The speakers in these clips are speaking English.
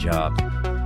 job.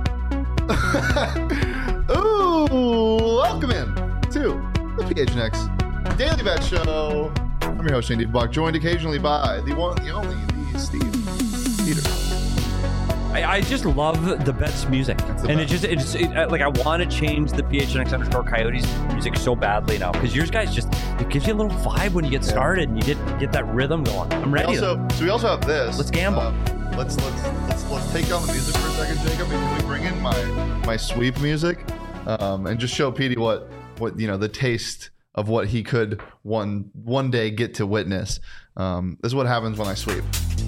Ooh, welcome in to the PHNX Daily Bet Show. I'm your host, Shane Buck, joined occasionally by the one, the only, the Steve Peter. I just love the Bet's music, and it's like I want to change the PHNX_Coyotes music so badly now because yours guys it gives you a little vibe when you get started and you get that rhythm going. I'm ready. So we also have this. Let's gamble. Let's take down the music for a second, Jacob. Can we bring in my sweep music and just show Petey what the taste of what he could one day get to witness. This is what happens when I sweep.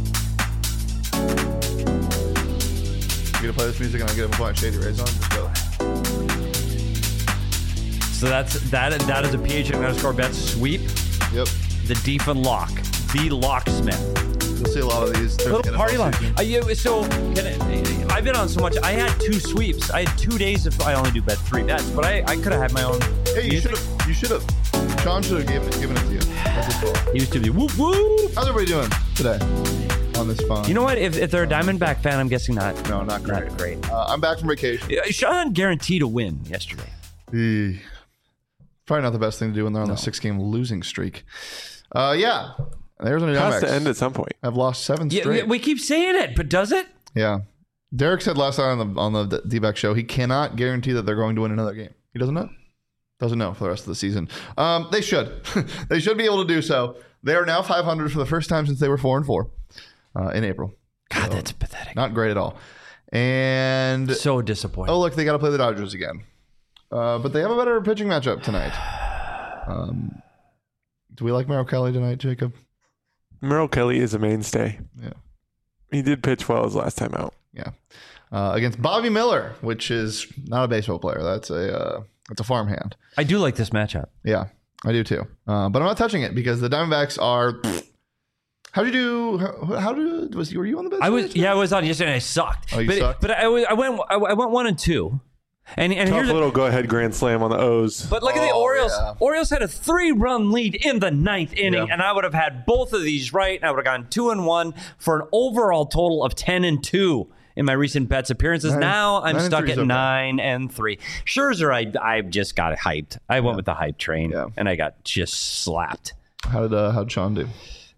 You gonna play this music and I'll get him playing Shady Rays on? Just go. So that is a PHNX_Bet sweep. Yep. The Deep and Lock, the locksmith. You'll see a lot of these. Little party lock. I've been on so much. I had 2 sweeps. I had 2 days if I only do bet 3 bets, but I could have had my own. Hey, you should have. Sean should have given it to you. That's cool. He used to be whoop whoop. How's everybody doing today on this phone? You know what? If they're a Diamondback fan, I'm guessing not. No, not great. Not great. I'm back from vacation. Sean guaranteed a win yesterday. Probably not the best thing to do when they're on a 6-game losing streak. Yeah. There's an has to end at some point. I've lost 7 straight. Yeah, we keep saying it, but does it? Yeah. Derek said last night on the D-back show he cannot guarantee that they're going to win another game. He doesn't know. Doesn't know for the rest of the season. They should. They should be able to do so. They are now 500 for the first time since they were 4-4 in April. God, so, that's pathetic. Not great at all. And so disappointing. Oh, look, they got to play the Dodgers again. But they have a better pitching matchup tonight. Do we like Merrill Kelly tonight, Jacob? Merrill Kelly is a mainstay. Yeah. He did pitch well his last time out. Yeah. Against Bobby Miller, which is not a baseball player. That's a farmhand. I do like this matchup. Yeah, I do too. But I'm not touching it because the Diamondbacks are. How'd you do? Were you on the best? I was on yesterday and I sucked. Oh, you sucked? But I went 1-2. And Tough here's little go-ahead grand slam on the O's. But look at the Orioles. Yeah. Orioles had a 3-run lead in the 9th inning, Yeah. and I would have had both of these right, and I would have gone 2-1 for an overall total of 10-2 in my recent bets appearances. Now I'm stuck at 9-3. Scherzer, I just got hyped. I went with the hype train, and I got just slapped. How'd Sean do?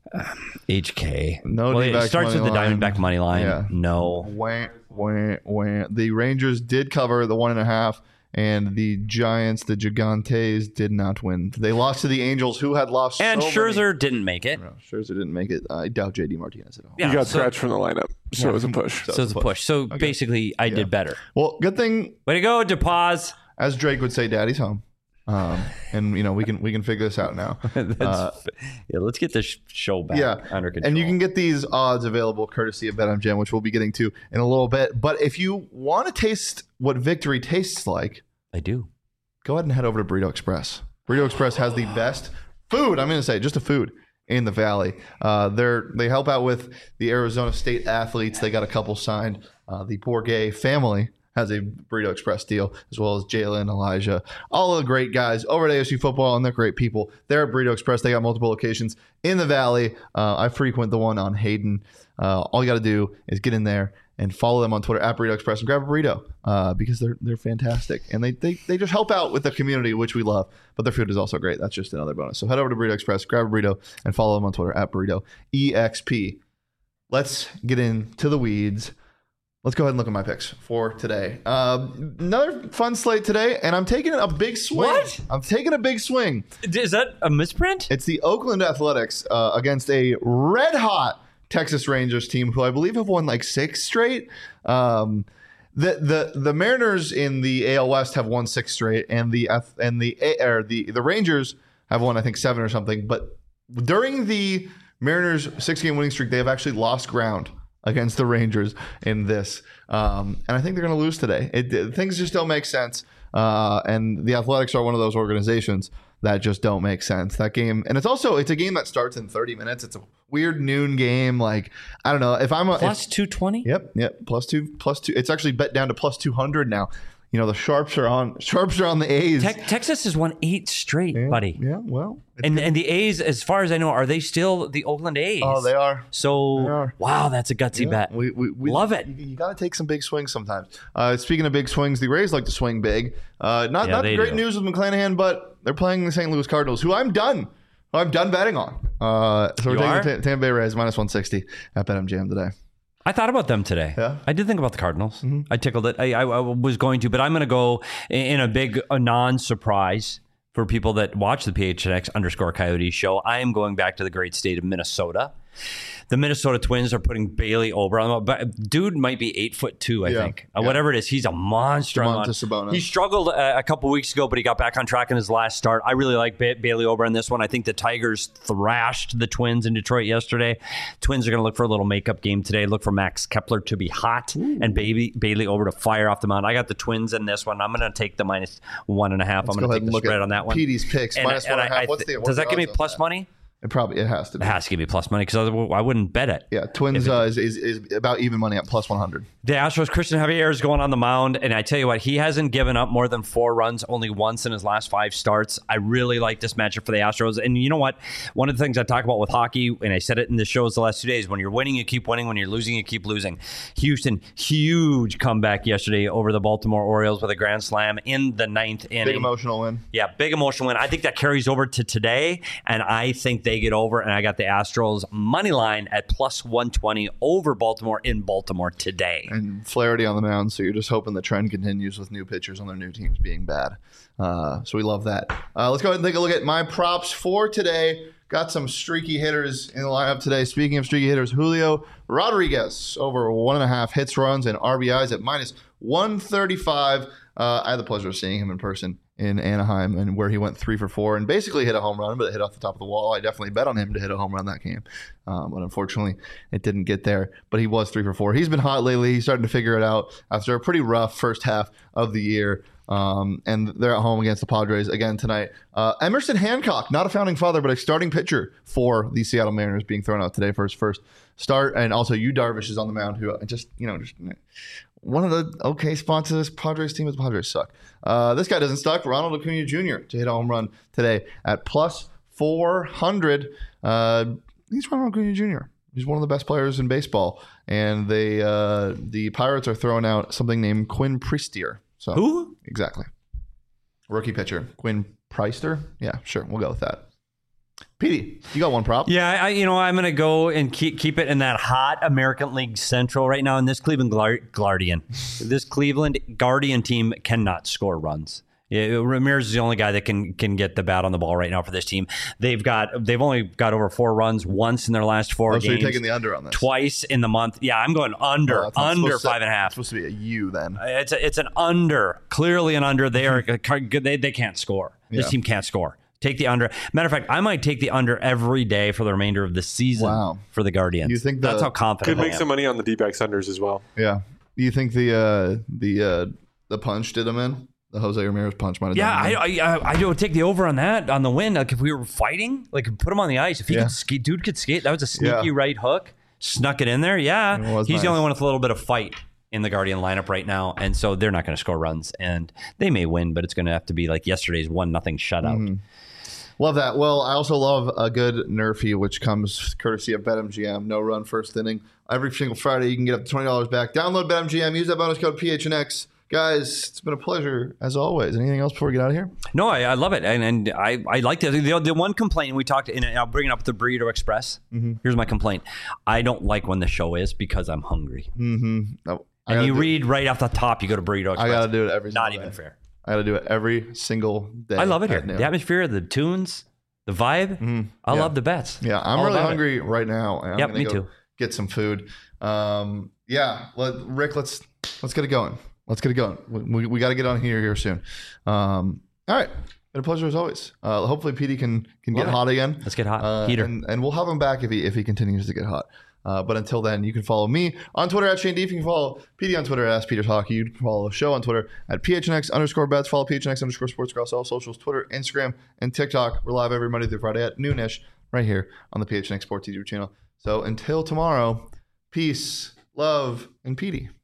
HK. No, it starts with the Diamondback money line. Yeah. No. Wah. The Rangers did cover the 1.5, and the Giants, the Gigantes, did not win. They lost to the Angels, who had lost. And so Scherzer many. didn't make it. No, Scherzer didn't make it. I doubt JD Martinez at all. Yeah, he got scratched from the lineup, so it was a push. So it's a push. So basically, I did better. Well, good thing. Way to go, DePaz. As Drake would say, "Daddy's home." And we can figure this out now. Let's get this show back under control. And you can get these odds available courtesy of BetMGM, which we'll be getting to in a little bit. But if you want to taste what victory tastes like, I do. Go ahead and head over to Burrito Express. Burrito Express has the best food. I'm going to say just a food in the Valley. They help out with the Arizona State athletes. They got a couple signed. The Bourget family has a Burrito Express deal, as well as Jalen, Elijah, all of the great guys over at ASU football, and they're great people. They're at Burrito Express. They got multiple locations in the Valley. I frequent the one on Hayden. All you got to do is get in there and follow them on Twitter at Burrito Express and grab a burrito because they're fantastic. And they just help out with the community, which we love. But their food is also great. That's just another bonus. So head over to Burrito Express, grab a burrito, and follow them on Twitter at Burrito EXP. Let's get into the weeds. Let's go ahead and look at my picks for today. Another fun slate today, and I'm taking a big swing. What? I'm taking a big swing. Is that a misprint? It's the Oakland Athletics against a red-hot Texas Rangers team who I believe have won like 6 straight. The Mariners in the AL West have won 6 straight, and the Rangers have won I think 7 or something. But during the Mariners 6-game winning streak, they have actually lost ground against the Rangers in this. And I think they're going to lose today. Things just don't make sense. And the Athletics are one of those organizations that just don't make sense. That game, and it's a game that starts in 30 minutes. It's a weird noon game. Like, I don't know. If I'm plus 220? Yep. Plus two. It's actually bet down to plus 200 now. the Sharps are on the A's. Texas has won 8 straight, buddy. Yeah, well. And the A's, as far as I know, are they still the Oakland A's? Oh, they are. So, They are. wow, that's a gutsy bet. We love it. You got to take some big swings sometimes. Speaking of big swings, the Rays like to swing big. Not great news with McClanahan, but they're playing the St. Louis Cardinals, who I'm done betting on. So we're taking the Tampa Bay Rays minus 160 at BetMGM today. I thought about them today. Yeah? I did think about the Cardinals. Mm-hmm. I tickled it. I was going to, but I'm going to go in a non-surprise for people that watch the PHNX_Coyote show. I am going back to the great state of Minnesota. The Minnesota Twins are putting Bailey Ober. Dude might be 8'2", I think. Whatever it is, he's a monster. He struggled a couple weeks ago, but he got back on track in his last start. I really like Bailey Ober in this one. I think the Tigers thrashed the Twins in Detroit yesterday. Twins are going to look for a little makeup game today. Look for Max Kepler to be hot and Bailey Ober to fire off the mound. I got the Twins in this one. I'm going to take the minus 1.5. I'm going to take the spread on that one. Petey's picks, minus 1.5. Does that give me plus money? It has to be. It has to give me plus money because I wouldn't bet it. Yeah, Twins is about even money at plus 100. The Astros, Christian Javier is going on the mound, and I tell you what, he hasn't given up more than 4 runs only once in his last 5 starts. I really like this matchup for the Astros. And you know what? One of the things I talk about with hockey, and I said it in the shows the last 2 days, when you're winning, you keep winning. When you're losing, you keep losing. Houston, huge comeback yesterday over the Baltimore Orioles with a grand slam in the 9th inning. Big emotional win. Yeah, big emotional win. I think that carries over to today, and I think they get over, and I got the Astros money line at plus 120 over Baltimore in Baltimore today. And Flaherty on the mound, so you're just hoping the trend continues with new pitchers on their new teams being bad. So we love that. Let's go ahead and take a look at my props for today. Got some streaky hitters in the lineup today. Speaking of streaky hitters, Julio Rodriguez over 1.5 hits, runs, and RBIs at minus 135. I had the pleasure of seeing him in person in Anaheim, and where he went 3 for 4 and basically hit a home run, but it hit off the top of the wall. I definitely bet on him to hit a home run that game, but unfortunately it didn't get there. But he was 3 for 4. He's been hot lately. He's starting to figure it out after a pretty rough first half of the year. And they're at home against the Padres again tonight. Emerson Hancock, not a founding father, but a starting pitcher for the Seattle Mariners, being thrown out today for his first start. And also Yu Darvish is on the mound, who just one of the okay spots of this Padres team, but the Padres suck. This guy doesn't suck. Ronald Acuna Jr. to hit a home run today at plus 400. He's Ronald Acuna Jr. He's one of the best players in baseball. And the Pirates are throwing out something named Quinn Priester. So, who? Exactly. Rookie pitcher. Quinn Priester? Yeah, sure. We'll go with that. Petey, you got one prop? Yeah, I'm going to go and keep it in that hot American League Central right now. And this Cleveland Guardian team cannot score runs. Yeah, Ramirez is the only guy that can get the bat on the ball right now for this team. They've only got over 4 runs once in their last 4 games. So you're taking the under on this? Twice in the month. Yeah, I'm going under 5.5. It's supposed to be a U then. It's an under, clearly an under. They can't score. This team can't score. Take the under. Matter of fact, I might take the under every day for the remainder of the season for the Guardians. You think that's how confident could make some money on the D-backs unders as well. Yeah. Do you think the punch did them in? The Jose Ramirez punch might have done it. I would take the over on that, on the win. Like if we were fighting, like put him on the ice. If he could skate, dude could skate. That was a sneaky right hook. Snuck it in there. Yeah. He's the only one with a little bit of fight in the Guardian lineup right now. And so they're not going to score runs. And they may win, but it's going to have to be like yesterday's 1-0 shutout. Mm-hmm. Love that. Well, I also love a good Nerfy, which comes courtesy of BetMGM. No run first inning. Every single Friday, you can get up to $20 back. Download BetMGM. Use that bonus code PHNX. Guys, it's been a pleasure as always. Anything else before we get out of here? No, I love it, and I like it. The one complaint we talked, and I'll bring it up with the Burrito Express. Mm-hmm. Here's my complaint: I don't like when the show is because I'm hungry. Mm-hmm. And you read right off the top, you go to Burrito Express. I got to do it every. Not even fair. I got to do it every single day. I love it here. The atmosphere, the tunes, the vibe. Mm-hmm. I love the bets. Yeah, I'm really hungry right now. And I'm me too. Get some food. Rick, let's get it going. Let's get it going. We got to get on here soon. All right. Been a pleasure as always. Hopefully PD can get hot again. Let's get hot. Heater. And we'll have him back if he continues to get hot. But until then, you can follow me on Twitter at Shane Deef. You can follow PD on Twitter at Peters Hockey. You can follow the show on Twitter at PHNX_bets. Follow PHNX_sports across all socials, Twitter, Instagram, and TikTok. We're live every Monday through Friday at noonish right here on the PHNX Sports YouTube channel. So until tomorrow, peace, love, and PD.